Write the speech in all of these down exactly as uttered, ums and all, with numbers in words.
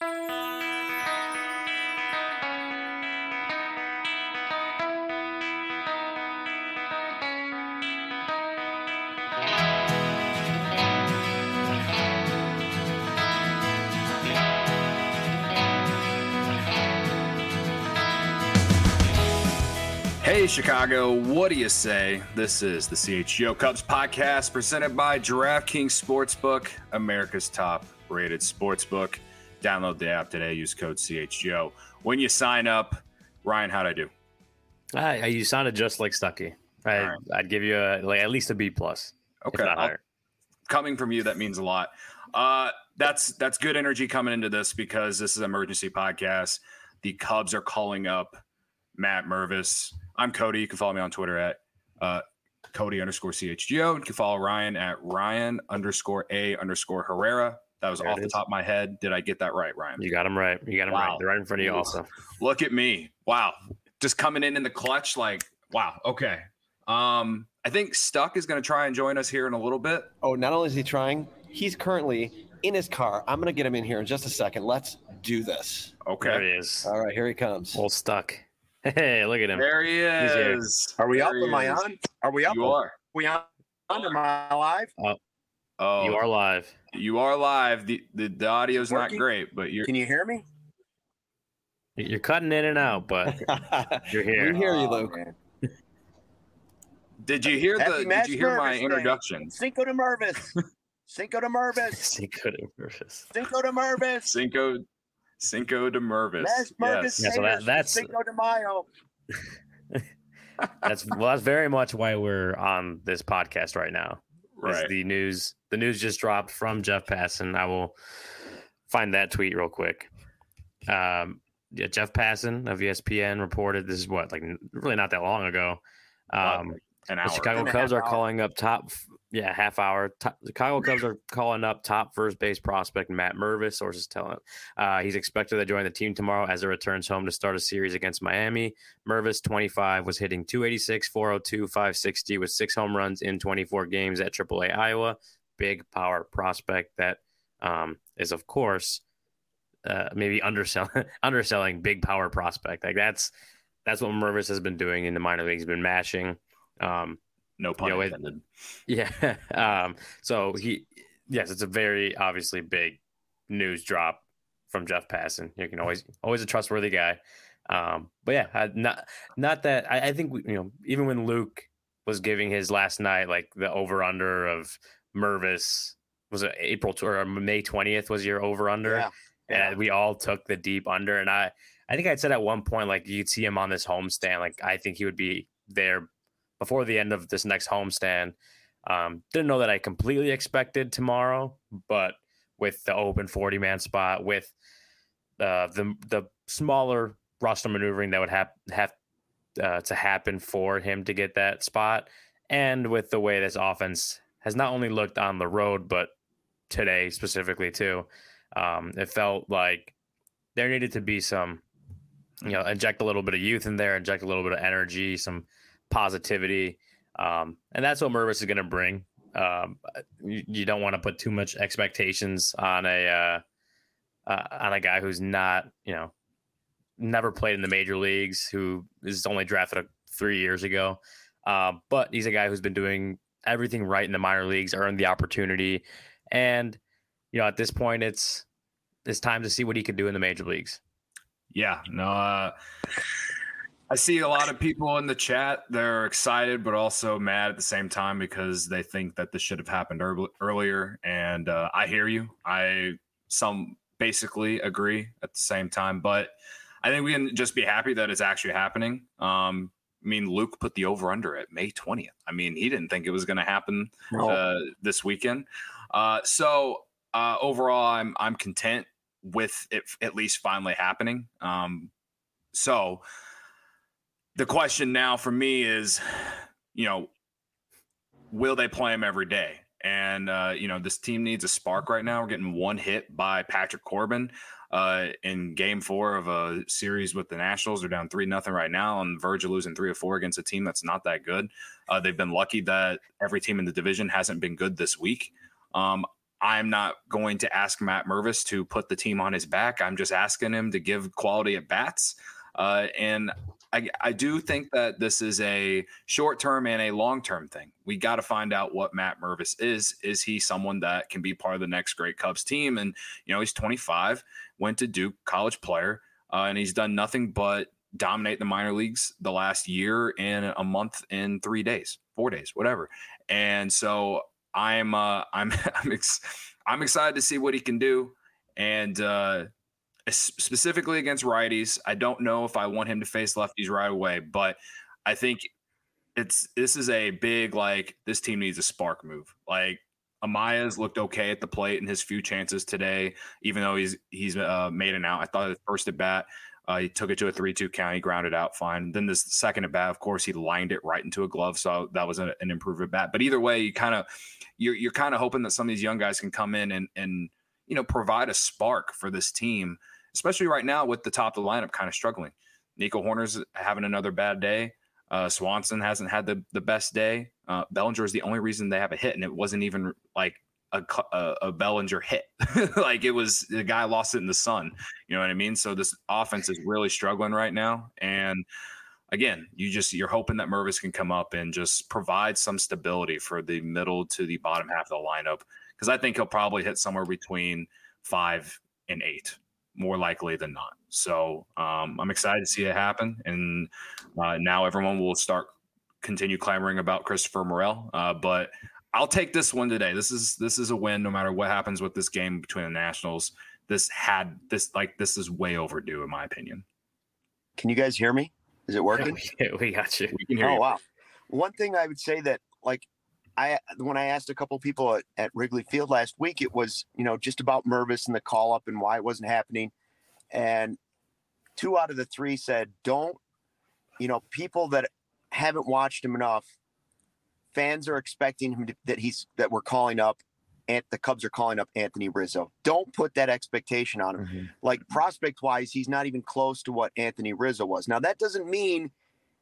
Hey, Chicago, what do you say? This is the C H G O Cubs podcast presented by DraftKings Sportsbook, America's top-rated sportsbook. Download the app today. Use code C H G O. When you sign up, Ryan, how'd I do? I, you sounded just like Stuckey. I, right. I'd give you a, like at least a B plus. Okay, coming from you, that means a lot. Uh, that's that's good energy coming into this because this is an emergency podcast. The Cubs are calling up Matt Mervis. I'm Cody. You can follow me on Twitter at uh, Cody underscore C H G O. You can follow Ryan at Ryan underscore A underscore Herrera. That was there off the top of my head. Did I get that right, Ryan? You got him right. You got him wow. right. They're right in front of you also. Look at me. Wow. Just coming in in the clutch like, wow. Okay. Um, I think Stuck is going to try and join us here in a little bit. Oh, not only is he trying, he's currently in his car. I'm going to get him in here in just a second. Let's do this. Okay. There he is. All right, here he comes. Old Stuck. Hey, look at him. There he is. Are we there up? Am I on? Are we up? You are. Are we on? Am I live? Oh, oh, you are live. You are live. The the, the audio's Working? not great, but you're. Can you hear me? You're cutting in and out, but you're here. We hear you, Luke. Oh, did you hear Happy the? Match Did you hear my Mervis introduction? Day. Cinco de Mervis. Cinco de Mervis. Cinco de Mervis. Cinco de Mervis. Cinco. Cinco de Mervis. Yes. Mervis yeah, so that, that's Cinco de Mayo. that's well. That's very much why we're on this podcast right now. Right. The news. The news just dropped from Jeff Passan. I will find that tweet real quick. Um, yeah, Jeff Passan of E S P N reported this is what like really not that long ago. Um, An hour. The Chicago And a Cubs half are hour. calling up top. Yeah, half hour. Top, the Chicago Cubs are calling up top first base prospect Matt Mervis. Sources tell him uh, he's expected to join the team tomorrow as it returns home to start a series against Miami. Mervis, twenty-five, was hitting two eighty-six, four oh two, five sixty with six home runs in twenty-four games at triple A Iowa. Big power prospect that um, is, of course, uh, maybe underselling underselling big power prospect. Like that's that's what Mervis has been doing in the minor leagues. He's been mashing. Um, No pun you know, intended. Yeah. Um, so he, yes, it's a very obviously big news drop from Jeff Passan. You can always, always a trustworthy guy. Um, but yeah, I, not, not that I, I think, we, you know, even when Luke was giving his last night, like the over under of Mervis was it April or May twentieth was your over under. Yeah. Yeah. And we all took the deep under. And I, I think I'd said at one point, like you'd see him on this homestand. Like I think he would be there before the end of this next homestand. Um, didn't know that I completely expected tomorrow, but with the open forty-man spot, with uh, the the smaller roster maneuvering that would have have uh, to happen for him to get that spot, and with the way this offense has not only looked on the road, but today specifically too, um, it felt like there needed to be some, you know, inject a little bit of youth in there, inject a little bit of energy, some positivity, um, and that's what Mervis is going to bring. Um, you, you don't want to put too much expectations on a uh, uh, on a guy who's not, you know, never played in the major leagues, who is only drafted three years ago. Uh, but he's a guy who's been doing everything right in the minor leagues, earned the opportunity, and you know, at this point, it's it's time to see what he could do in the major leagues. Yeah, no. Uh... I see a lot of people in the chat. They're excited, but also mad at the same time because they think that this should have happened early, earlier. And uh, I hear you. I some basically agree at the same time, but I think we can just be happy that it's actually happening. Um, I mean, Luke put the over under at May twentieth. I mean, he didn't think it was going to happen uh, this weekend. Uh, so uh, overall, I'm I'm content with it at least finally happening. Um, so. The question now for me is, you know, will they play him every day? And, uh, you know, this team needs a spark right now. We're getting one hit by Patrick Corbin uh, in game four of a series with the Nationals. They're down three nothing right now on the verge of losing three or four against a team that's not that good. Uh, they've been lucky that every team in the division hasn't been good this week. Um, I'm not going to ask Matt Mervis to put the team on his back. I'm just asking him to give quality at bats. Uh, and I, I do think that this is a short-term and a long-term thing. We got to find out what Matt Mervis is. Is he someone that can be part of the next great Cubs team? And, you know, he's twenty-five, went to Duke, college player, uh, and he's done nothing but dominate the minor leagues the last year in a month in three days, four days, whatever. And so I'm uh, I'm I'm, ex- I'm excited to see what he can do, and uh, specifically against righties. I don't know if I want him to face lefties right away, but I think it's this is a big like this team needs a spark move. Like Amaya's looked okay at the plate in his few chances today, even though he's he's uh, made an out. I thought his first at bat. Uh, he took it to a three two count. He grounded out fine. Then this second at bat, of course, he lined it right into a glove. So that was a, an improved at bat. But either way, you kind of you're you're kind of hoping that some of these young guys can come in and and you know provide a spark for this team, especially right now with the top of the lineup kind of struggling. Nico Horner's having another bad day. Uh, Swanson hasn't had the the best day. Uh, Bellinger is the only reason they have a hit, and it wasn't even like a, a, a Bellinger hit. Like it was the guy lost it in the sun. You know what I mean? So this offense is really struggling right now. And again, you just you're hoping that Mervis can come up and just provide some stability for the middle to the bottom half of the lineup, because I think he'll probably hit somewhere between five and eight, more likely than not. So um, I'm excited to see it happen. And uh, now everyone will start continue clamoring about Christopher Morel. Uh, but I'll take this one today. This is this is a win no matter what happens with this game between the Nationals. This had this like this is way overdue in my opinion. Can you guys hear me? Is it working? Yeah, we got you. We can hear Oh, you. wow. One thing I would say that, like, I when I asked a couple of people at, at Wrigley Field last week, it was, you know, just about Mervis and the call up and why it wasn't happening. And two out of the three said, don't, you know, people that haven't watched him enough, fans are expecting him to, that he's that we're calling up and the Cubs are calling up Anthony Rizzo. Don't put that expectation on him. Mm-hmm. Like prospect wise, he's not even close to what Anthony Rizzo was. Now that doesn't mean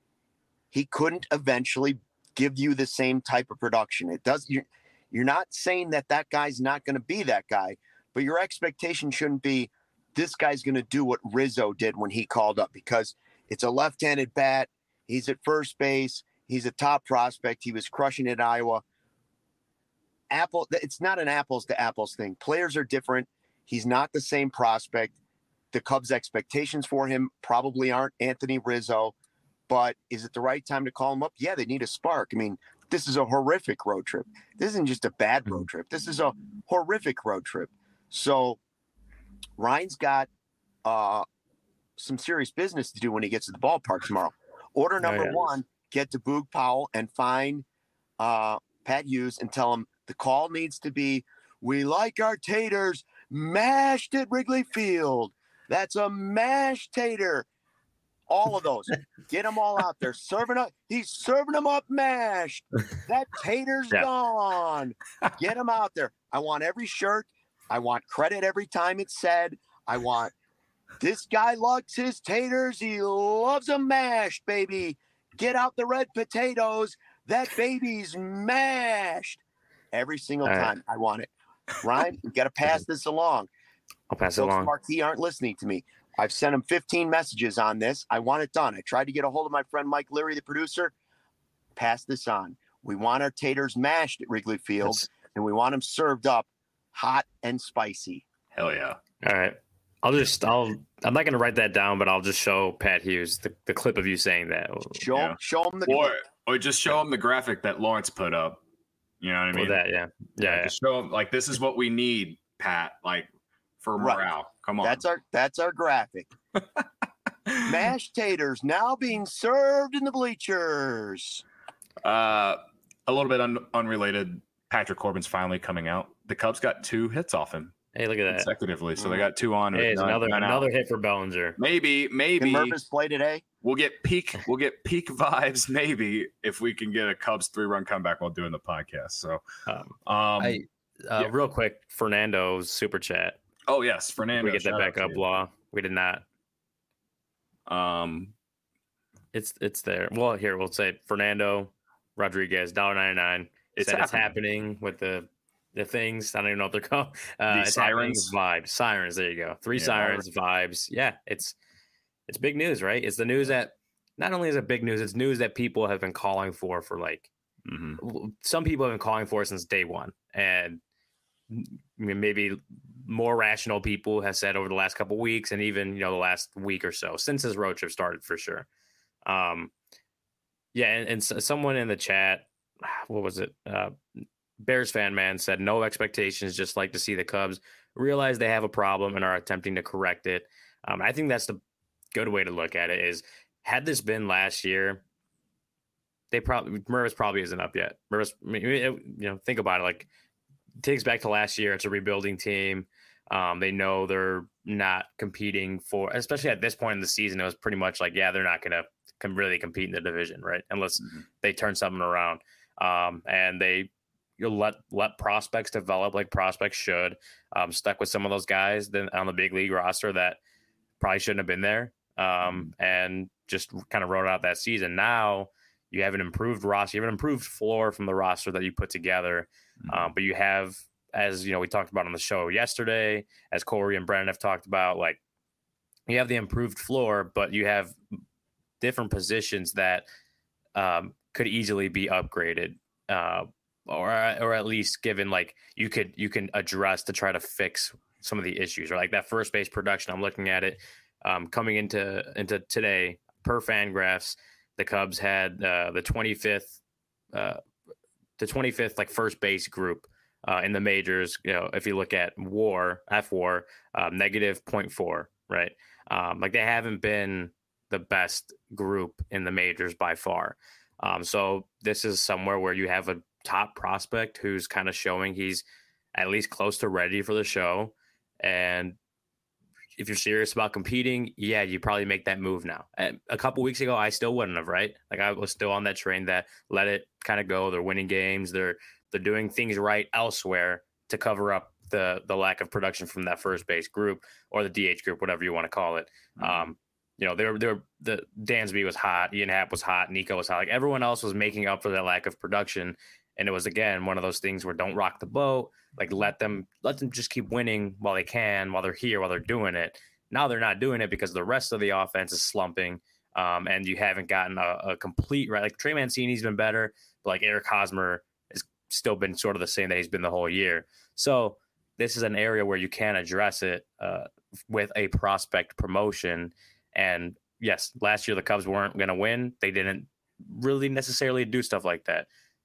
he couldn't eventually give you the same type of production. It does. You're, you're not saying that that guy's not going to be that guy, but your expectation shouldn't be this guy's going to do what Rizzo did when he called up, because it's a left-handed bat. He's at first base. He's a top prospect. He was crushing it at Iowa. Apple, it's not an apples to apples thing. Players are different. He's not the same prospect. The Cubs' expectations for him probably aren't Anthony Rizzo, but is it the right time to call him up? Yeah, they need a spark. I mean, this is a horrific road trip. This isn't just a bad road trip. This is a horrific road trip. So Ryan's got uh, some serious business to do when he gets to the ballpark tomorrow. Order number oh, yeah. one, get to Boog Powell and find uh, Pat Hughes and tell him the call needs to be, we like our taters mashed at Wrigley Field. That's a mashed tater. All of those. Get them all out there. Serving up. He's serving them up mashed. That tater's yeah. gone. Get them out there. I want every shirt. I want credit every time it's said. I want this guy likes his taters. He loves them mashed, baby. Get out the red potatoes. That baby's mashed. Every single All time. Right. I want it. Ryan, you got to pass this along. I'll pass Folks it along. Marquee aren't listening to me. I've sent him fifteen messages on this. I want it done. I tried to get a hold of my friend Mike Leary, the producer. Pass this on. We want our taters mashed at Wrigley Field, That's... and we want them served up hot and spicy. Hell yeah. All right. I'll just, I'll, I'm not going to write that down, but I'll just show Pat Hughes the, the clip of you saying that. Show, yeah. show him the or, clip. Or just show him the graphic that Lawrence put up. You know what I mean? Well, that, yeah. Yeah. yeah. Just show him, like, this is what we need, Pat, like, for morale. Right. Come on. That's our, that's our graphic. Mashed taters now being served in the bleachers. Uh, a little bit un- unrelated. Patrick Corbin's finally coming out. The Cubs got two hits off him. Hey, look at that. Consecutively. So they got two on. Hey, it's another another hit for Bellinger. Maybe, maybe. Can Mervis play today? We'll get peak. We'll get peak vibes. Maybe if we can get a Cubs three run comeback while doing the podcast. So, um, um I, uh, yeah. real quick, Fernando's super chat. Oh yes, Fernando. We get that back up, Law. We did not. Um, it's it's there. Well, here we'll say Fernando Rodriguez, one dollar ninety-nine. It's said happening. It's happening with the the things. I don't even know what they're called. Uh, The it's happening. sirens? Vibes, sirens. There you go. Three Yeah. sirens, vibes. Yeah, it's it's big news, right? It's the news that not only is it big news, it's news that people have been calling for for like Mm-hmm. some people have been calling for it since day one, and maybe more rational people have said over the last couple of weeks, and even you know the last week or so since this road trip started for sure. Um, yeah, and, and so someone in the chat, what was it? Uh, Bears fan man said no expectations, just like to see the Cubs realize they have a problem and are attempting to correct it. Um, I think that's the good way to look at it. Is had this been last year, they probably Mervis probably isn't up yet. Mervis, I mean, it, you know, think about it. Like it takes back to last year. It's a rebuilding team. Um, they know they're not competing for, especially at this point in the season. It was pretty much like, yeah, they're not going to com- really compete in the division, right? Unless Mm-hmm. they turn something around. Um, and they you'll let let prospects develop like prospects should. Um, stuck with some of those guys then on the big league roster that probably shouldn't have been there. Um, and just kind of wrote out that season. Now you have an improved roster, you have an improved floor from the roster that you put together. Mm-hmm. Um, but you have, as you know, we talked about on the show yesterday, as Corey and Brennan have talked about, like you have the improved floor, but you have different positions that um, could easily be upgraded, uh, or or at least given like you could you can address to try to fix some of the issues. Or like that first base production, I'm looking at it um, coming into into today per Fangraphs. The Cubs had uh, the twenty-fifth, uh, the twenty-fifth like first base group uh, in the majors. You know, if you look at WAR, F WAR, um, negative zero point four, right? Um, like they haven't been the best group in the majors by far. Um, so this is somewhere where you have a top prospect who's kind of showing he's at least close to ready for the show. And if you're serious about competing, yeah, you probably make that move now. And a couple weeks ago, I still wouldn't have, right? Like I was still on that train that let it kind of go. They're winning games. They're they're doing things right elsewhere to cover up the the lack of production from that first base group or the D H group, whatever you want to call it. Mm-hmm. Um, you know, they're they're the Dansby was hot, Ian Happ was hot, Nico was hot. Like everyone else was making up for that lack of production. And it was, again, one of those things where don't rock the boat. Like let them let them just keep winning while they can, while they're here, while they're doing it. Now they're not doing it because the rest of the offense is slumping, um, and you haven't gotten a, a complete right. Like Trey Mancini's been better, but like Eric Hosmer has still been sort of the same that he's been the whole year. So this is an area where you can address it uh, with a prospect promotion. And yes, last year the Cubs weren't going to win. They didn't really necessarily do stuff like that.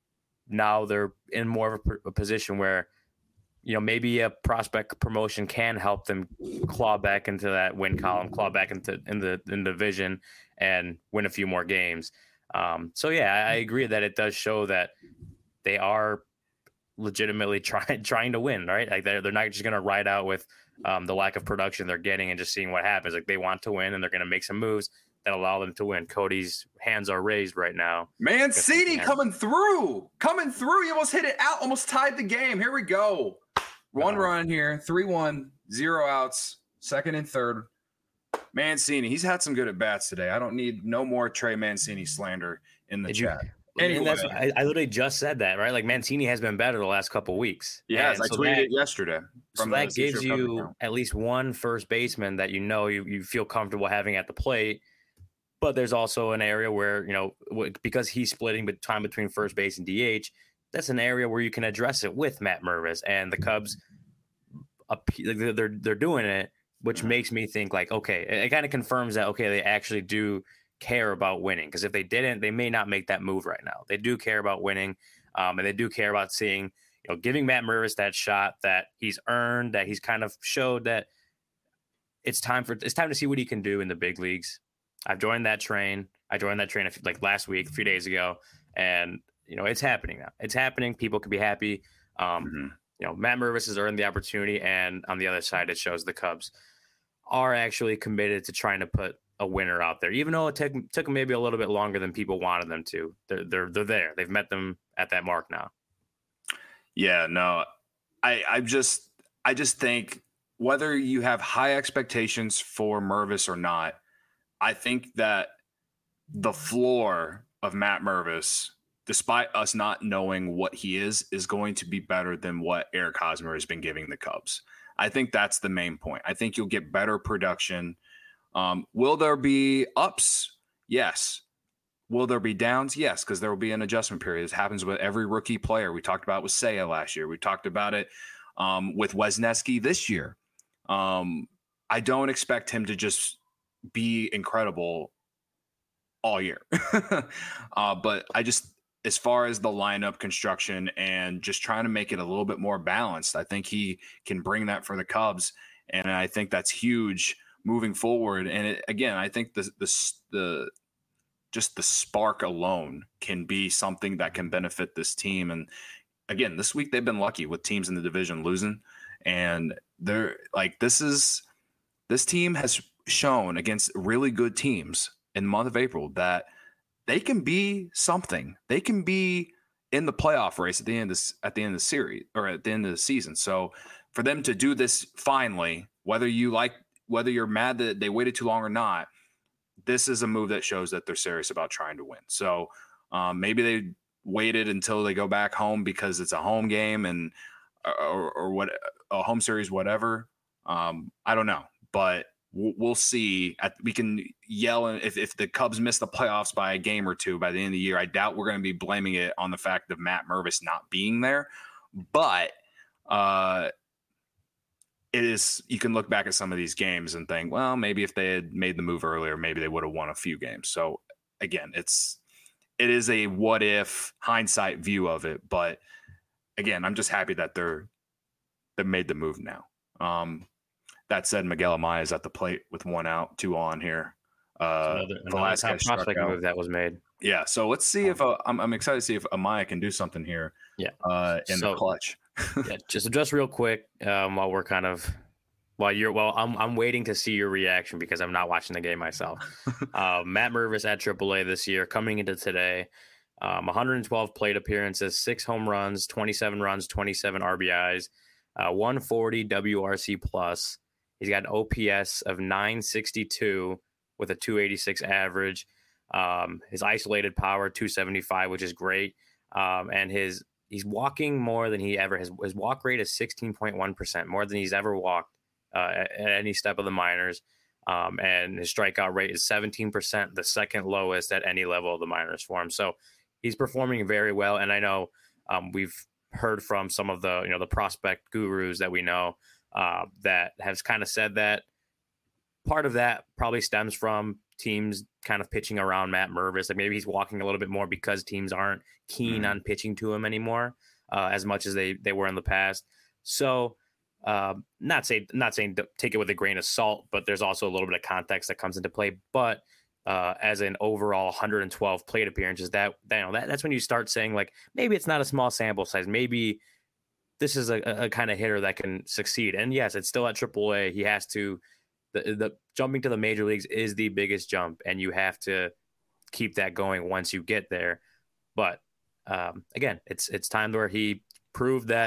Now they're in more of a, a position where, you know, maybe a prospect promotion can help them claw back into that win column, claw back into in the in the division, and win a few more games. Um, so yeah, I agree that it does show that they are legitimately trying trying to win, right? Like they're they're not just going to ride out with um, the lack of production they're getting and just seeing what happens. Like they want to win, and they're going to make some moves that allow them to win. Cody's hands are raised right now. Mancini coming through, coming through. He almost hit it out, almost tied the game. Here we go. One uh-huh. run here, three one, zero outs, second and third. Mancini, he's had some good at bats today. I don't need no more Trey Mancini slander in the Did chat. You, anyway. that's, I, I literally just said that, right? Like Mancini has been better the last couple of weeks. Yes, I so tweeted that, it yesterday. So that gives you at least one first baseman that you know you, you feel comfortable having at the plate. But there's also an area where, you know, because he's splitting time between first base and D H, that's an area where you can address it with Matt Mervis, and the Cubs, they're they're doing it, which makes me think like, okay, it kind of confirms that, okay, they actually do care about winning. Because if they didn't, they may not make that move right now. They do care about winning, um, and they do care about seeing, you know, giving Matt Mervis that shot that he's earned, that he's kind of showed that it's time for it's time to see what he can do in the big leagues. I've joined that train. I joined that train like last week, a few days ago, and you know it's happening now. It's happening. People can be happy. Um, mm-hmm. You know, Matt Mervis has earned the opportunity, and on the other side, it shows the Cubs are actually committed to trying to put a winner out there, even though it took took them maybe a little bit longer than people wanted them to. They're they're they're there. They've met them at that mark now. Yeah, no, I I just I just think whether you have high expectations for Mervis or not, I think that the floor of Matt Mervis despite us not knowing what he is, is going to be better than what Eric Hosmer has been giving the Cubs. I think that's the main point. I think you'll get better production. Um, will there be ups? Yes. Will there be downs? Yes, because there will be an adjustment period. This happens with every rookie player. We talked about with Seiya last year. We talked about it um, with Wesneski this year. Um, I don't expect him to just be incredible all year. uh, but I just, as far as the lineup construction and just trying to make it a little bit more balanced, I think he can bring that for the Cubs. And I think that's huge moving forward. And it, again, I think the, the, the, just the spark alone can be something that can benefit this team. And again, this week they've been lucky with teams in the division losing. And they're like, this is, this team has shown against really good teams in the month of April that they can be something. They can be in the playoff race at the end of this, at the end of the series or at the end of the season. So for them to do this finally, whether you like, whether you're mad that they waited too long or not, this is a move that shows that they're serious about trying to win. So um, maybe they waited until they go back home because it's a home game and or, or what a home series, whatever. Um, I don't know, but we'll see. At, we can yell if, if the Cubs miss the playoffs by a game or two by the end of the year. I doubt we're going to be blaming it on the fact of Matt Mervis not being there. But uh, it is, you can look back at some of these games and think, well, maybe if they had made the move earlier, maybe they would have won a few games. So again, it's it is a what if hindsight view of it. But again, I'm just happy that they're they made the move now. Um, That said, Miguel Amaya is at the plate with one out, two on here. Uh, another, another top prospect move that was made. Yeah, so let's see if uh, I'm, I'm excited to see if Amaya can do something here. Yeah, uh, in so, the clutch. yeah, just just real quick um, while we're kind of while you're well, I'm I'm waiting to see your reaction because I'm not watching the game myself. uh, Matt Mervis at triple A this year, coming into today, um, one hundred twelve plate appearances, six home runs, twenty-seven runs, twenty-seven R B Is, uh, one forty W R C plus. He's got an O P S of nine sixty-two with a two eighty-six average. Um, his isolated power, two seventy-five, which is great. Um, and his he's walking more than he ever has. His walk rate is sixteen point one percent, more than he's ever walked uh, at, at any step of the minors. Um, and his strikeout rate is seventeen percent, the second lowest at any level of the minors for him. So he's performing very well. And I know um, we've heard from some of the, you know, the prospect gurus that we know, Uh, that has kind of said that part of that probably stems from teams kind of pitching around Matt Mervis. Like maybe he's walking a little bit more because teams aren't keen mm. on pitching to him anymore uh, as much as they, they were in the past. So uh, not say not saying take it with a grain of salt, but there's also a little bit of context that comes into play. But uh, as an overall one hundred twelve plate appearances, that, that, you know, that that's when you start saying like maybe it's not a small sample size, maybe this is a, a kind of hitter that can succeed. And yes, it's still at triple A. He has to, the, the jumping to the major leagues is the biggest jump, and you have to keep that going once you get there. But um, again, it's it's time where he proved that.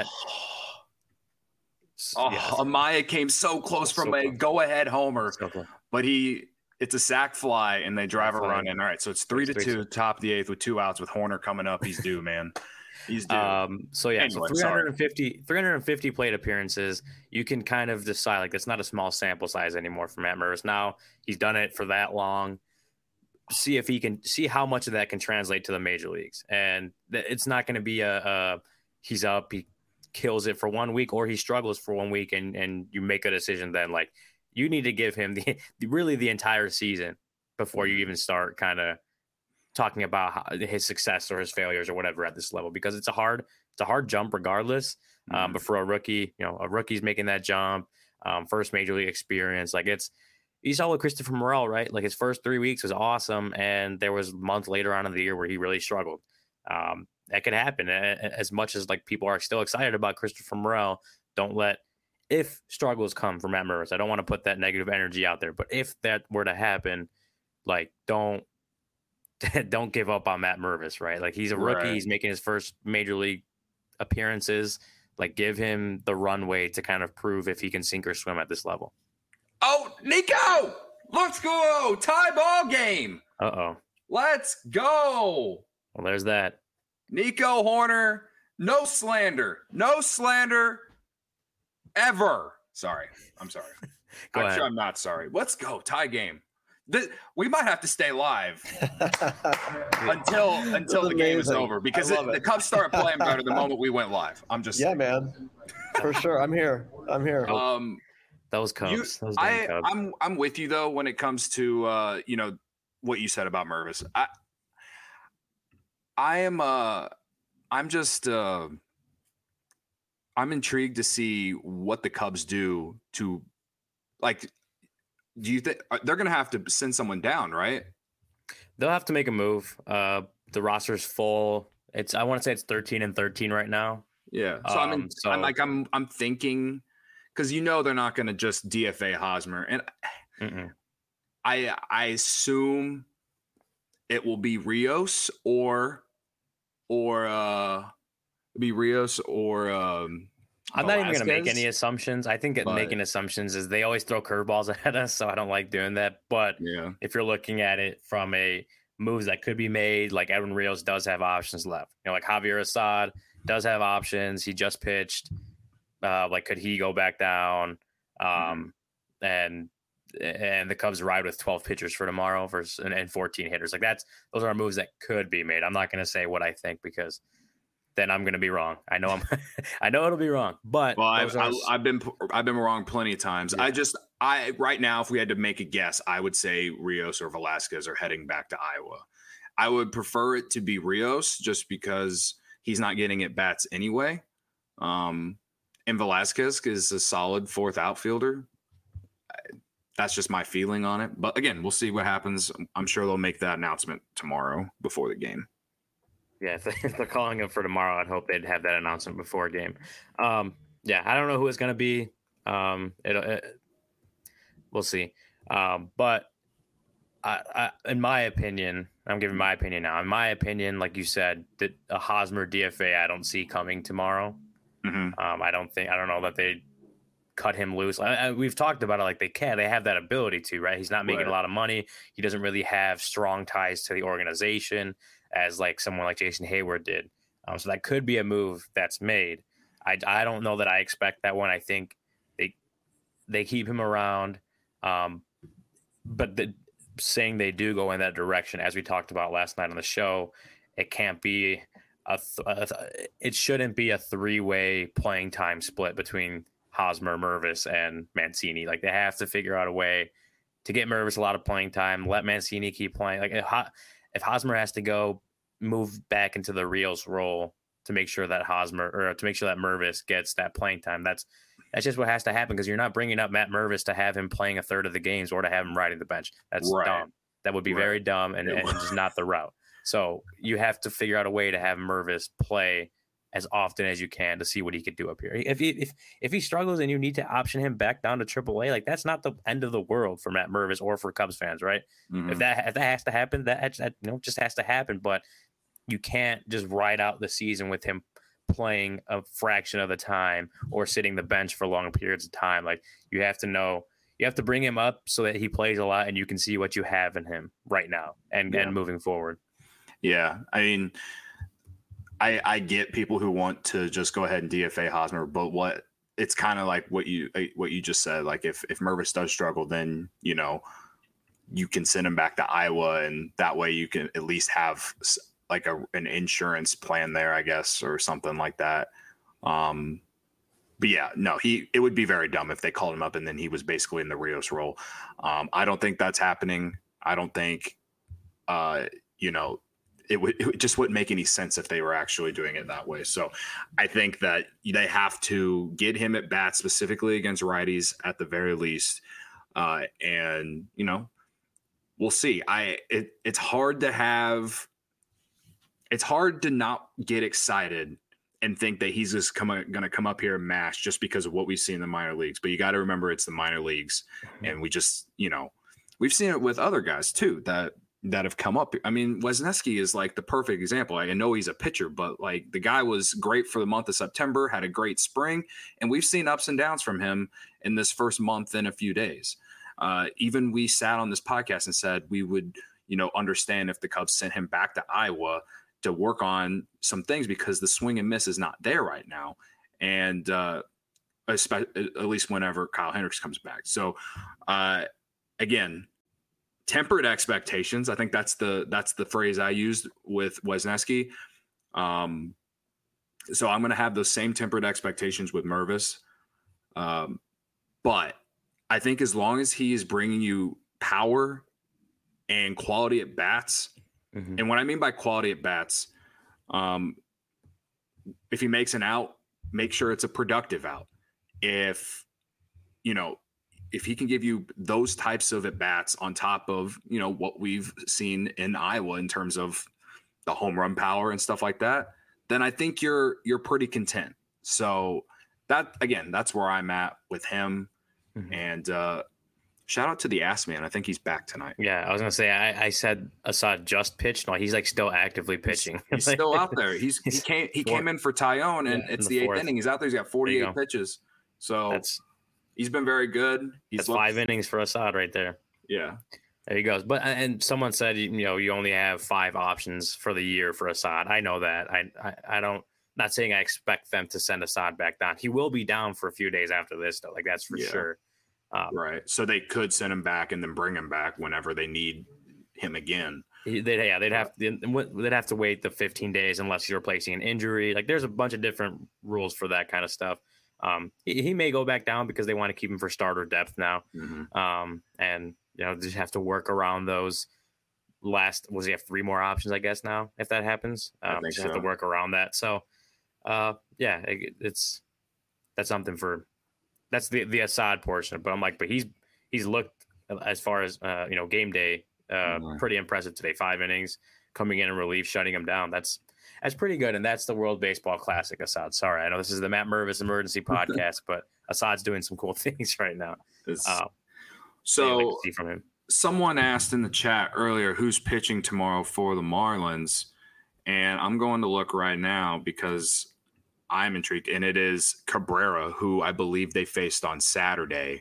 Oh, yeah, Amaya came so close from so a close. go-ahead homer, so but he it's a sac fly, and they drive a run in. All right, so it's three it's to two, top of the eighth with two outs with Horner coming up. He's due, man. He's due. Um, so yeah, anyway, so three fifty, three fifty plate appearances. You can kind of decide like that's not a small sample size anymore for Matt Mervis. Now he's done it for that long. See if he can see how much of that can translate to the major leagues, and th- it's not going to be a, a he's up, he kills it for one week, or he struggles for one week, and and you make a decision. Then like you need to give him the really the entire season before you even start kind of talking about how, his success or his failures or whatever at this level, because it's a hard, it's a hard jump regardless. Mm-hmm. Um, but for a rookie, you know, a rookie's making that jump, um, first major league experience. Like it's, you saw with Christopher Morel, right? Like his first three weeks was awesome. And there was a month later on in the year where he really struggled. Um, that could happen as much as like people are still excited about Christopher Morel. Don't let, if struggles come from Matt Mervis, I don't want to put that negative energy out there, but if that were to happen, like don't, don't give up on Matt Mervis, right? Like he's a rookie. Right. He's making his first major league appearances. Like give him the runway to kind of prove if he can sink or swim at this level. Oh, Nico, let's go. Tie ball game. Uh-oh. Let's go. Well, there's that. Nico Hoerner, no slander. No slander ever. Sorry. I'm sorry. Go I'm ahead. sure I'm not sorry. Let's go. Tie game. The, we might have to stay live until until the game is over because it, it. the Cubs started playing better the moment we went live. I'm just yeah, saying. man. For sure. I'm here. I'm here. Um, Those Cubs. you, those damn I, Cubs. I'm I'm with you though when it comes to uh, you know what you said about Mervis. I I am uh I'm just uh I'm intrigued to see what the Cubs do to like. Do you think they're going to have to send someone down, right? They'll have to make a move. Uh, the roster's full. It's I want to say it's thirteen and thirteen right now. Yeah. So I'm, in, Um, so- I'm like I'm I'm thinking because you know they're not going to just D F A Hosmer, and Mm-mm. I I assume it will be Rios or or uh be Rios or um. I'm not even going to make Velasquez. any assumptions. I think that but- making assumptions is they always throw curveballs at us, so I don't like doing that. But Yeah. if you're looking at it from a moves that could be made, like Edwin Rios does have options left. You know, like Javier Assad does have options. He just pitched. Uh, like, could he go back down? Um, Mm-hmm. and and the Cubs ride with twelve pitchers for tomorrow versus and, and fourteen hitters. Like that's those are moves that could be made. I'm not going to say what I think because then I'm going to be wrong. I know I'm. I know it'll be wrong, but Well, I've, those are- I, I've been I've been wrong plenty of times. Yeah. I just I right now, if we had to make a guess, I would say Rios or Velasquez are heading back to Iowa. I would prefer it to be Rios just because he's not getting at bats anyway. Um, and Velasquez is a solid fourth outfielder. That's just my feeling on it. But again, we'll see what happens. I'm sure they'll make that announcement tomorrow before the game. Yeah, if, they, if they're calling him for tomorrow, I'd hope they'd have that announcement before a game. Um, yeah, I don't know who it's going to be. Um, it, it, we'll see. Um, but I, I, in my opinion, I'm giving my opinion now. In my opinion, like you said, that a Hosmer D F A I don't see coming tomorrow. Mm-hmm. Um, I don't think I don't know that they cut him loose. I, I, we've talked about it like they can. They have that ability to, right? He's not making Right. a lot of money. He doesn't really have strong ties to the organization as like someone like Jason Hayward did. Um, so that could be a move that's made. I, I don't know that I expect that one. I think they they keep him around, um, but the, saying they do go in that direction, as we talked about last night on the show, it can't be a, th- a th- it shouldn't be a three way playing time split between Hosmer, Mervis, and Mancini. Like they have to figure out a way to get Mervis a lot of playing time, let Mancini keep playing. Like if, if Hosmer has to go move back into the Rios role to make sure that Hosmer or to make sure that Mervis gets that playing time, that's that's just what has to happen because you're not bringing up Matt Mervis to have him playing a third of the games or to have him riding the bench. That's Right. dumb. That would be Right. very dumb and, and just not the route. So you have to figure out a way to have Mervis play as often as you can to see what he could do up here. If he, if if he struggles and you need to option him back down to triple A, like that's not the end of the world for Matt Mervis or for Cubs fans, right? Mm-hmm. If that if that has to happen, that, that you know just has to happen. But you can't just ride out the season with him playing a fraction of the time or sitting the bench for long periods of time. Like you have to know, you have to bring him up so that he plays a lot and you can see what you have in him right now and, Yeah. and moving forward. Yeah, I mean, I I get people who want to just go ahead and D F A Hosmer, but what it's kind of like what you what you just said. Like if if Mervis does struggle, then you know you can send him back to Iowa, and that way you can at least have like a an insurance plan there, I guess, or something like that. Um, but yeah, no, he it would be very dumb if they called him up and then he was basically in the Rios role. Um, I don't think that's happening. I don't think, uh, you know. It, would, it just wouldn't make any sense if they were actually doing it that way. So I think that they have to get him at bat specifically against righties at the very least. Uh, and, you know, we'll see. I it, it's hard to have it's hard to not get excited and think that he's just going to come up here and mash just because of what we see in the minor leagues. But you got to remember it's the minor leagues. And we just, you know, we've seen it with other guys too, that that have come up. I mean, Wesneski is like the perfect example. I know he's a pitcher, but like the guy was great for the month of September, had a great spring, and we've seen ups and downs from him in this first month in a few days. Uh, even we sat on this podcast and said we would, you know, understand if the Cubs sent him back to Iowa to work on some things because the swing and miss is not there right now. And uh, especially, at least whenever Kyle Hendricks comes back. So uh, again, tempered expectations. I think that's the that's the phrase I used with Wesneski. Um, so I'm going to have those same tempered expectations with Mervis. Um, but I think as long as he is bringing you power and quality at bats, mm-hmm. and what I mean by quality at bats, um, if he makes an out, make sure it's a productive out. If, you know, if he can give you those types of at bats on top of, you know, what we've seen in Iowa in terms of the home run power and stuff like that, then I think you're you're pretty content. So that, again, that's where I'm at with him. Mm-hmm. And uh, shout out to the ass man. I think he's back tonight. Yeah, I was gonna say I, I said Assad just pitched. No, he's like still actively pitching. He's, he's still out there. He's he came he came in for Tyone, and yeah, it's the, the eighth inning. He's out there. He's got forty-eight pitches. So that's he's been very good. He's that's looked, five innings for Assad right there. Yeah. There he goes. But and someone said, you know, you only have five options for the year for Assad. I know that. I I, I don't. Not saying I expect them to send Assad back down. He will be down for a few days after this, though. Like that's for yeah. sure. Um, right. So they could send him back and then bring him back whenever they need him again. They'd, yeah, they'd have to, they'd have to wait the fifteen days unless you're replacing an injury. Like there's a bunch of different rules for that kind of stuff. Um, he, he may go back down because they want to keep him for starter depth now. Mm-hmm. Um, and you know, just have to work around those last, was he have three more options, I guess now, if that happens, um, I think just so. Have to work around that. So, uh, yeah, it, it's, that's something for, that's the, the Assad portion, but I'm like, but he's, he's looked as far as, uh, you know, game day, uh, mm-hmm. pretty impressive today, five innings coming in in relief, shutting him down. That's, that's pretty good. And that's the World Baseball Classic, Assad. Sorry. I know this is the Matt Mervis Emergency Podcast, but Assad's doing some cool things right now. Uh, So like see from him. Someone asked in the chat earlier, who's pitching tomorrow for the Marlins? And I'm going to look right now because I'm intrigued. And it is Cabrera, who I believe they faced on Saturday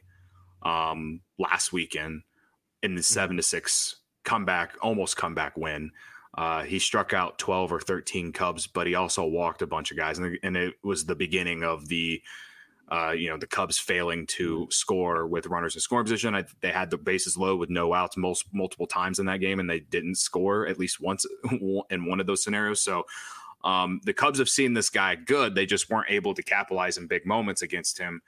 um, last weekend in the seven to six comeback, almost comeback win. Uh, he struck out twelve or thirteen Cubs, but he also walked a bunch of guys. And, and it was the beginning of the Uh, you know, the Cubs failing to score with runners in scoring position. I, they had the bases low with no outs most, multiple times in that game, and they didn't score at least once in one of those scenarios. So um, the Cubs have seen this guy good. They just weren't able to capitalize in big moments against him.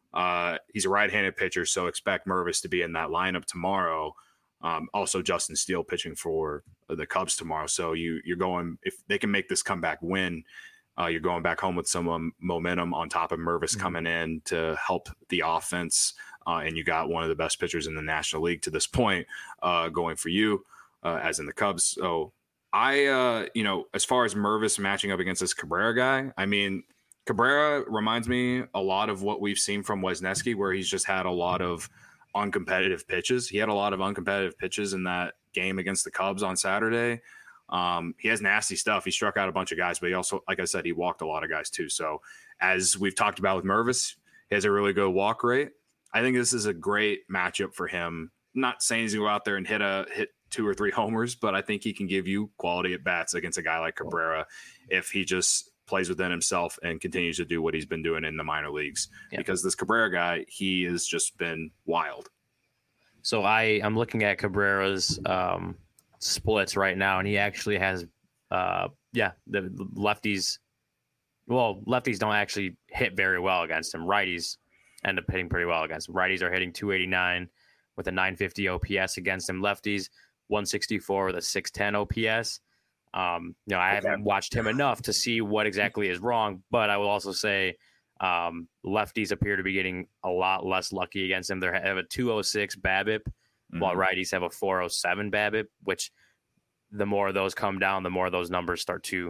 Uh, he's a right-handed pitcher, so expect Mervis to be in that lineup tomorrow. Um, also, Justin Steele pitching for the Cubs tomorrow. So you, you're going – if they can make this comeback win – Uh, you're going back home with some um, momentum on top of Mervis mm-hmm. coming in to help the offense. Uh, and you got one of the best pitchers in the National League to this point uh, going for you, uh, as in the Cubs. So I, uh, you know, as far as Mervis matching up against this Cabrera guy, I mean, Cabrera reminds me a lot of what we've seen from Wesneski, where he's just had a lot of uncompetitive pitches. He had a lot of uncompetitive pitches in that game against the Cubs on Saturday. Um, he has nasty stuff. He struck out a bunch of guys, but he also, like I said, he walked a lot of guys too. So as we've talked about with Mervis, he has a really good walk rate. I think this is a great matchup for him. I'm not saying he's going to go out there and hit a hit two or three homers, but I think he can give you quality at bats against a guy like Cabrera if he just plays within himself and continues to do what he's been doing in the minor leagues. Yeah. Because this Cabrera guy, he has just been wild. So I, I'm looking at Cabrera's um, splits right now, and he actually has, uh, yeah, the lefties. Well, lefties don't actually hit very well against him. Righties end up hitting pretty well against him. Righties are hitting two eighty-nine with a nine fifty O P S against him. Lefties one sixty-four with a six ten O P S. Um, you know, I okay. haven't watched him enough to see what exactly is wrong, but I will also say um, lefties appear to be getting a lot less lucky against him. They have a two oh six BABIP, mm-hmm. while righties have a four oh seven BABIP, which the more those come down, the more those numbers start to,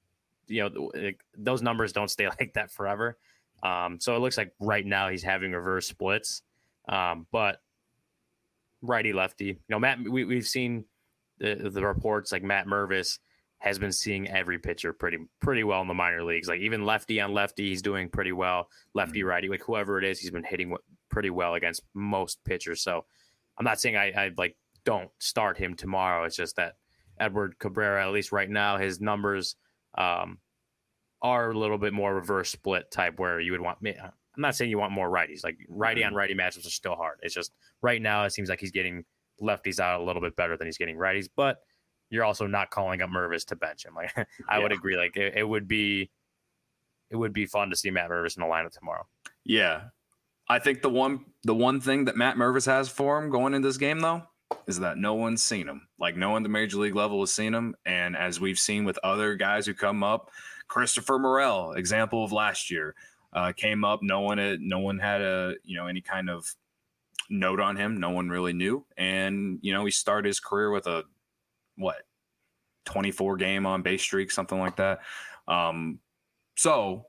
you know, it, those numbers don't stay like that forever. Um, so it looks like right now he's having reverse splits, um, but righty lefty, you know, Matt, we, we've seen the, the reports like Matt Mervis has been seeing every pitcher pretty, pretty well in the minor leagues. Like even lefty on lefty, he's doing pretty well. Lefty, mm-hmm. righty, like whoever it is, he's been hitting pretty well against most pitchers. So I'm not saying I, I like don't start him tomorrow. It's just that Edward Cabrera, at least right now, his numbers um, are a little bit more reverse split type where you would want me. I'm not saying you want more righties. Like righty on righty matchups are still hard. It's just right now it seems like he's getting lefties out a little bit better than he's getting righties, but you're also not calling up Mervis to bench him. Like I yeah. would agree. Like it, it would be, it would be fun to see Matt Mervis in the lineup tomorrow. Yeah. I think the one, the one thing that Matt Mervis has for him going into this game though, is that no one's seen him. Like no one at the major league level has seen him. And as we've seen with other guys who come up, Christopher Morel, example of last year, uh, came up. No one had, no one had a, you know, any kind of note on him. No one really knew. And, you know, he started his career with a, what, twenty-four game on base streak, something like that. Um, so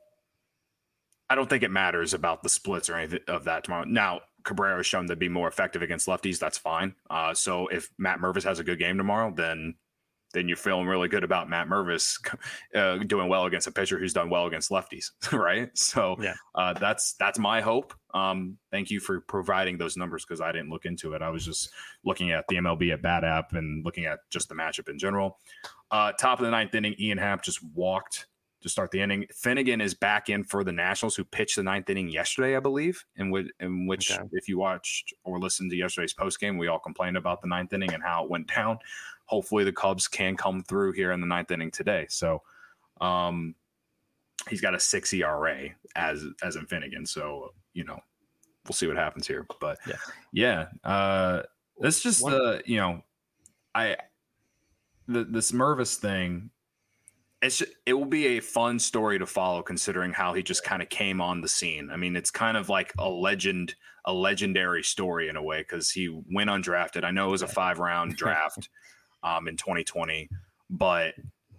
I don't think it matters about the splits or anything of that tomorrow. Now, Cabrera has shown to be more effective against lefties. That's fine. Uh, so if Matt Mervis has a good game tomorrow, then then you're feeling really good about Matt Mervis uh, doing well against a pitcher who's done well against lefties, right? So yeah. uh, that's that's my hope. Um, thank you for providing those numbers because I didn't look into it. I was just looking at the M L B at Bat app and looking at just the matchup in general. Uh, top of the ninth inning, Ian Happ just walked to start the inning. Finnegan is back in for the Nationals, who pitched the ninth inning yesterday, I believe, in, w- in which okay. if you watched or listened to yesterday's postgame, we all complained about the ninth inning and how it went down. Hopefully the Cubs can come through here in the ninth inning today. So um, he's got a six E R A as as in Finnegan. So, you know, we'll see what happens here. But yeah, yeah uh, it's just One. the, you know, I the, this Mervis thing, it's just, it will be a fun story to follow considering how he just kind of came on the scene. I mean, it's kind of like a legend, a legendary story in a way because he went undrafted. I know it was a five round draft. Um, in twenty twenty, but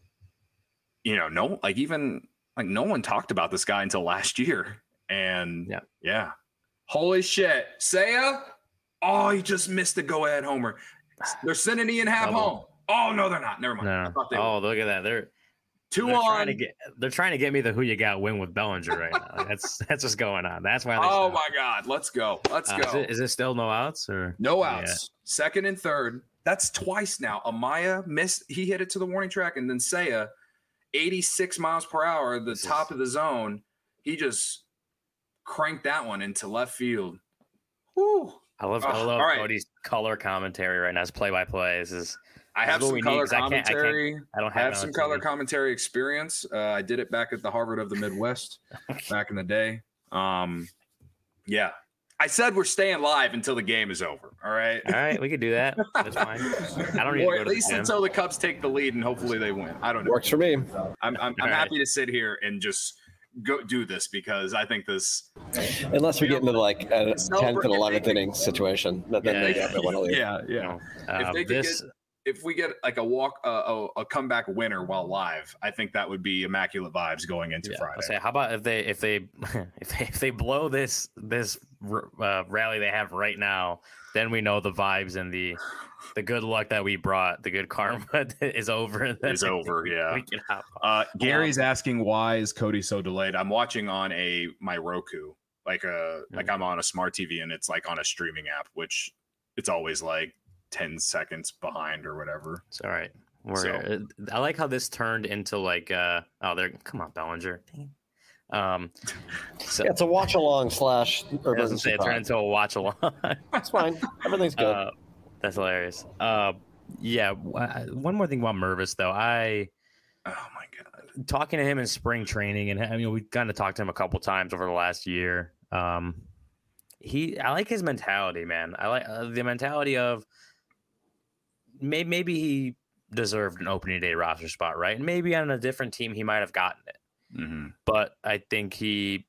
you know, no, like even like no one talked about this guy until last year, and yeah, yeah, holy shit, Seiya, oh, he just missed the go-ahead homer. They're sending Ian Happ home. Oh no, they're not. Never mind. No. Oh, were. Look at that. They're two they're on. Trying to get, they're trying to get me the who you got win with Bellinger right now. Like, that's that's what's going on. That's why. Oh stopped. my God, let's go. Let's uh, go. Is it, is it still no outs or no outs? Yeah. Second and third. That's twice now. Amaya missed. He hit it to the warning track, and then Seiya, eighty-six miles per hour, the this top is... of the zone. He just cranked that one into left field. Woo! I love, oh, I love right. Cody's color commentary right now. It's play by play. This is. I have some color commentary. I, can't, I, can't, I don't have, I have some color commentary experience. Uh, I did it back at the Harvard of the Midwest back in the day. Um, yeah. I said we're staying live until the game is over. All right. All right. We could do that. That's fine. I don't need or to go at to least the until the Cubs take the lead and hopefully they win. I don't know. Works for me. I'm I'm, I'm happy right. to sit here and just go do this because I think this. Unless we get into like a tenth and eleventh inning situation, then yeah, they yeah, want to leave. Yeah, yeah. Uh, if they this. Get, if we get like a walk, uh, a, a comeback winner while live, I think that would be immaculate vibes going into yeah, Friday. I'll say, how about if they if they if they, if they blow this this uh, rally they have right now, then we know the vibes and the the good luck that we brought, the good karma is over. Is over, yeah. Uh, Gary's um, asking why is Cody so delayed? I'm watching on a my Roku, like a mm-hmm. like I'm on a smart T V and it's like on a streaming app, which it's always like ten seconds behind or whatever. It's all right. We're, so, I like how this turned into like, uh, oh, there, come on, Bellinger. Um, so, yeah, it's a watch along slash. It doesn't say it turned into a watch along. That's fine. Everything's good. Uh, that's hilarious. Uh, yeah. One more thing about Mervis though. I, oh my God, talking to him in spring training, and I mean, we kind of talked to him a couple times over the last year. Um, he, I like his mentality, man. I like uh, the mentality of, Maybe, maybe he deserved an opening day roster spot, right? And maybe on a different team, he might have gotten it. Mm-hmm. But I think he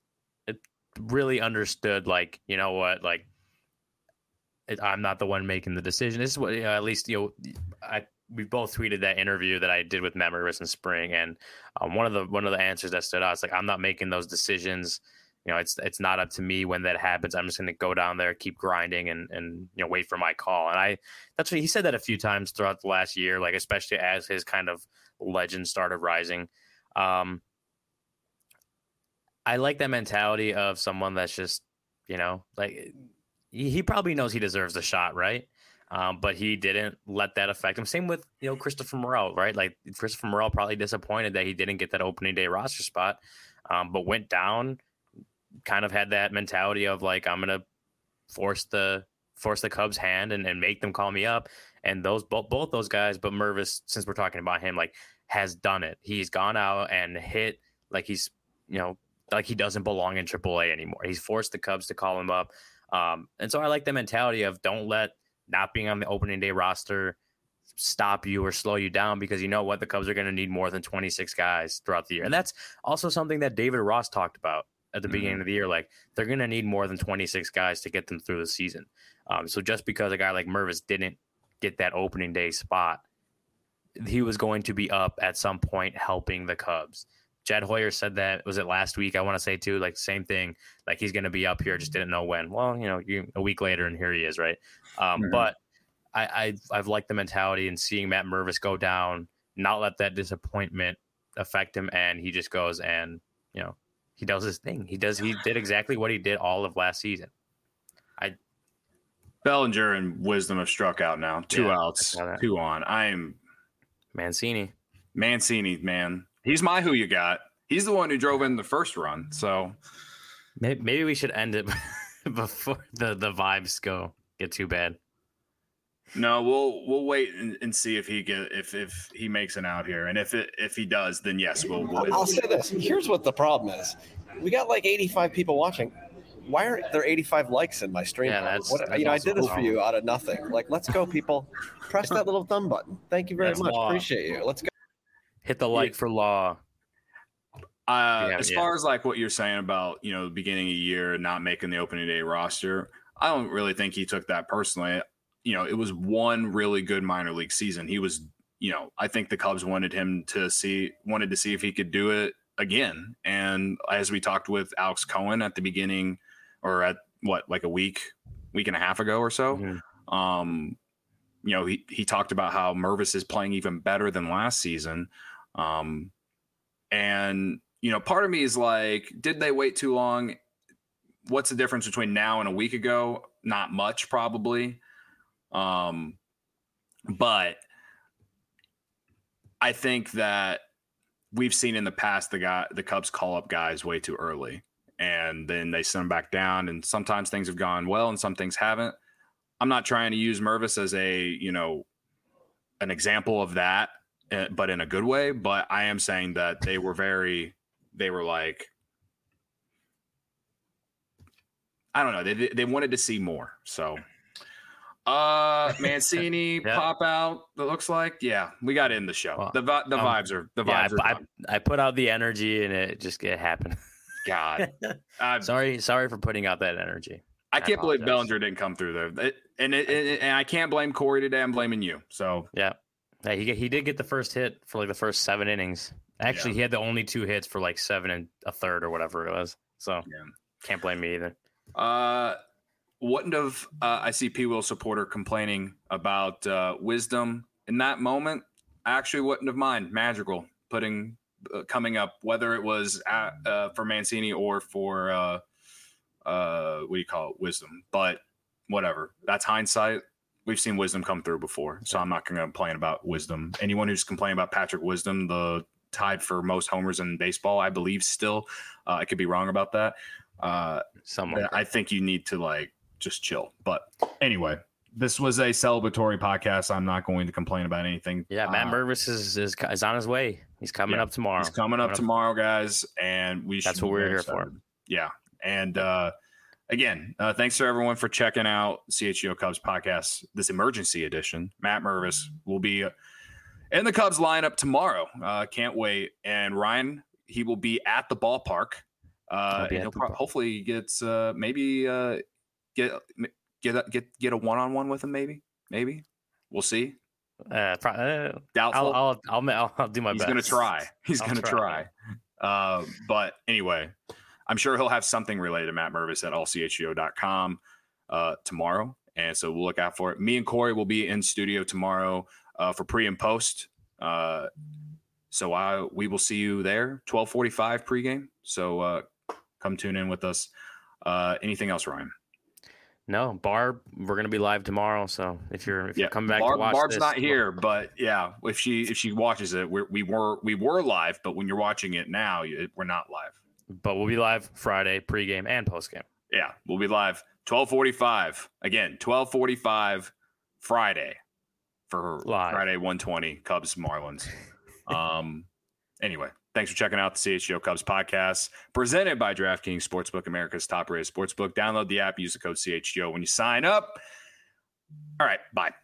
really understood, like, you know what, like, it, I'm not the one making the decision. This is what, you know, at least, you know, I we both tweeted that interview that I did with Matt Mervis in spring, and um, one of the one of the answers that stood out is like, I'm not making those decisions. You know, it's it's not up to me when that happens. I'm just going to go down there, keep grinding, and and you know wait for my call. And I that's what he said that a few times throughout the last year, like especially as his kind of legend started rising. Um, I like that mentality of someone that's just, you know, like he, he probably knows he deserves the shot, right? Um, but he didn't let that affect him. Same with, you know, Christopher Morel, right? Like Christopher Morel probably disappointed that he didn't get that opening day roster spot, um, but went down, kind of had that mentality of like, I'm going to force the force the Cubs hand and, and make them call me up. And those both, both those guys, but Mervis, since we're talking about him, like has done it. He's gone out and hit like he's, you know, like he doesn't belong in triple A anymore. He's forced the Cubs to call him up. Um, and so I like the mentality of don't let not being on the opening day roster stop you or slow you down, because you know what, the Cubs are going to need more than twenty-six guys throughout the year. And that's also something that David Ross talked about at the mm-hmm. beginning of the year. Like they're going to need more than twenty-six guys to get them through the season. Um, so just because a guy like Mervis didn't get that opening day spot, he was going to be up at some point helping the Cubs. Jed Hoyer said that, was it last week? I want to say too, like same thing, like he's going to be up here, just didn't know when. Well, you know, you, a week later and here he is. Right. Um, mm-hmm. But I, I, I've liked the mentality and seeing Matt Mervis go down, not let that disappointment affect him. And he just goes and, you know, he does his thing. He does, he did exactly what he did all of last season. I, Bellinger and Wisdom have struck out now. Two Yeah, outs, I saw that. two on. I'm Mancini. Mancini, man. He's my who you got. He's the one who drove in the first run. So Maybe, maybe we should end it before the, the vibes go get too bad. no, we'll we'll wait and, and see if he get if if he makes an out here, and if it if he does, then yes, we'll. we'll I'll say this. Here's what the problem is. We got like eighty-five people watching. Why aren't there eighty-five likes in my stream? Yeah, that's- what, that's you know, I also did this a for you out of nothing. Like, let's go, people. Press that little thumb button. Thank you very That's much. law. Appreciate you. Let's go. Hit the like for law. Uh, Yeah, as yeah. far as like what you're saying about, you know, the beginning of the year not making the opening day roster, I don't really think he took that personally. You know, it was one really good minor league season. He was, you know, I think the Cubs wanted him to see, wanted to see if he could do it again. And as we talked with Alex Cohen at the beginning, or at what, like a week, week and a half ago or so, Mhm. um, you know, he, he talked about how Mervis is playing even better than last season. Um, and, you know, part of me is like, did they wait too long? What's the difference between now and a week ago? Not much, probably. Um, but I think that we've seen in the past the guy, the Cubs call up guys way too early, and then they send them back down. And sometimes things have gone well, and some things haven't. I'm not trying to use Mervis as a, you know, an example of that, uh, but in a good way. But I am saying that they were very, they were like, I don't know, they they wanted to see more. So, uh, Mancini Yeah. pop out. It looks like, yeah, we got to end the show. Well, the vi- the um, vibes are the Yeah, vibes I, are done. I, I put out the energy and it just it happened. God, I, sorry, sorry for putting out that energy. I can't believe apologize. Bellinger didn't come through there. It, and it, it, and I can't blame Corey today. I'm blaming you. So Yeah, yeah he he did get the first hit for like the first seven innings. Actually, Yeah. he had the only two hits for like seven and a third or whatever it was. So yeah. can't blame me either. Uh, wouldn't have. Uh, I see P. Will supporter complaining about uh, Wisdom in that moment. I actually wouldn't have mind Magical putting uh, coming up, whether it was at, uh, for Mancini or for uh, uh, what do you call it, Wisdom. But whatever, that's hindsight. We've seen Wisdom come through before, so I'm not going to complain about Wisdom. Anyone who's complaining about Patrick Wisdom, the tied for most homers in baseball, I believe still. Uh, I could be wrong about that. Uh, Someone, I think you need to like just chill. But anyway, this was a celebratory podcast. I'm not going to complain about anything. yeah, Matt Uh, Mervis is, is is on his way. He's coming yeah, up tomorrow. He's coming up tomorrow, guys, and we. That's should what be we're very here for. excited. Yeah, and uh, again, uh, thanks to everyone for checking out C H G O Cubs podcast, this emergency edition. Matt Mervis will be in the Cubs lineup tomorrow. Uh, can't wait. And Ryan, he will be at the ballpark. Uh, He'll be and at he'll the pro- bar- hopefully he gets uh, maybe uh, get get a, get get a one on one with him. Maybe, maybe we'll see. Uh, pro- uh, Doubtful. I'll, I'll I'll I'll I'll do my He's best. gonna try. He's I'll gonna try. try. Uh, but anyway, I'm sure he'll have something related to Matt Mervis at all c h g o dot com uh, tomorrow, and so we'll look out for it. Me and Corey will be in studio tomorrow uh, for pre and post. Uh, so I we will see you there, twelve forty-five pregame. So uh, come tune in with us. Uh, anything else, Ryan? No, Barb, we're gonna be live tomorrow. So if you're if Yeah, you're coming back Barb, to watch Barb's this, not here, but yeah, if she if she watches it, we're, we were we were live, but when you're watching it now, it, we're not live. but we'll be live Friday, pregame and postgame. Yeah, we'll be live twelve forty-five again, twelve forty-five Friday for Live. Friday one twenty Cubs Marlins. Um, anyway. Thanks for checking out the C H G O Cubs podcast presented by DraftKings Sportsbook, America's top-rated sportsbook. Download the app, use the code C H G O when you sign up. All right, bye.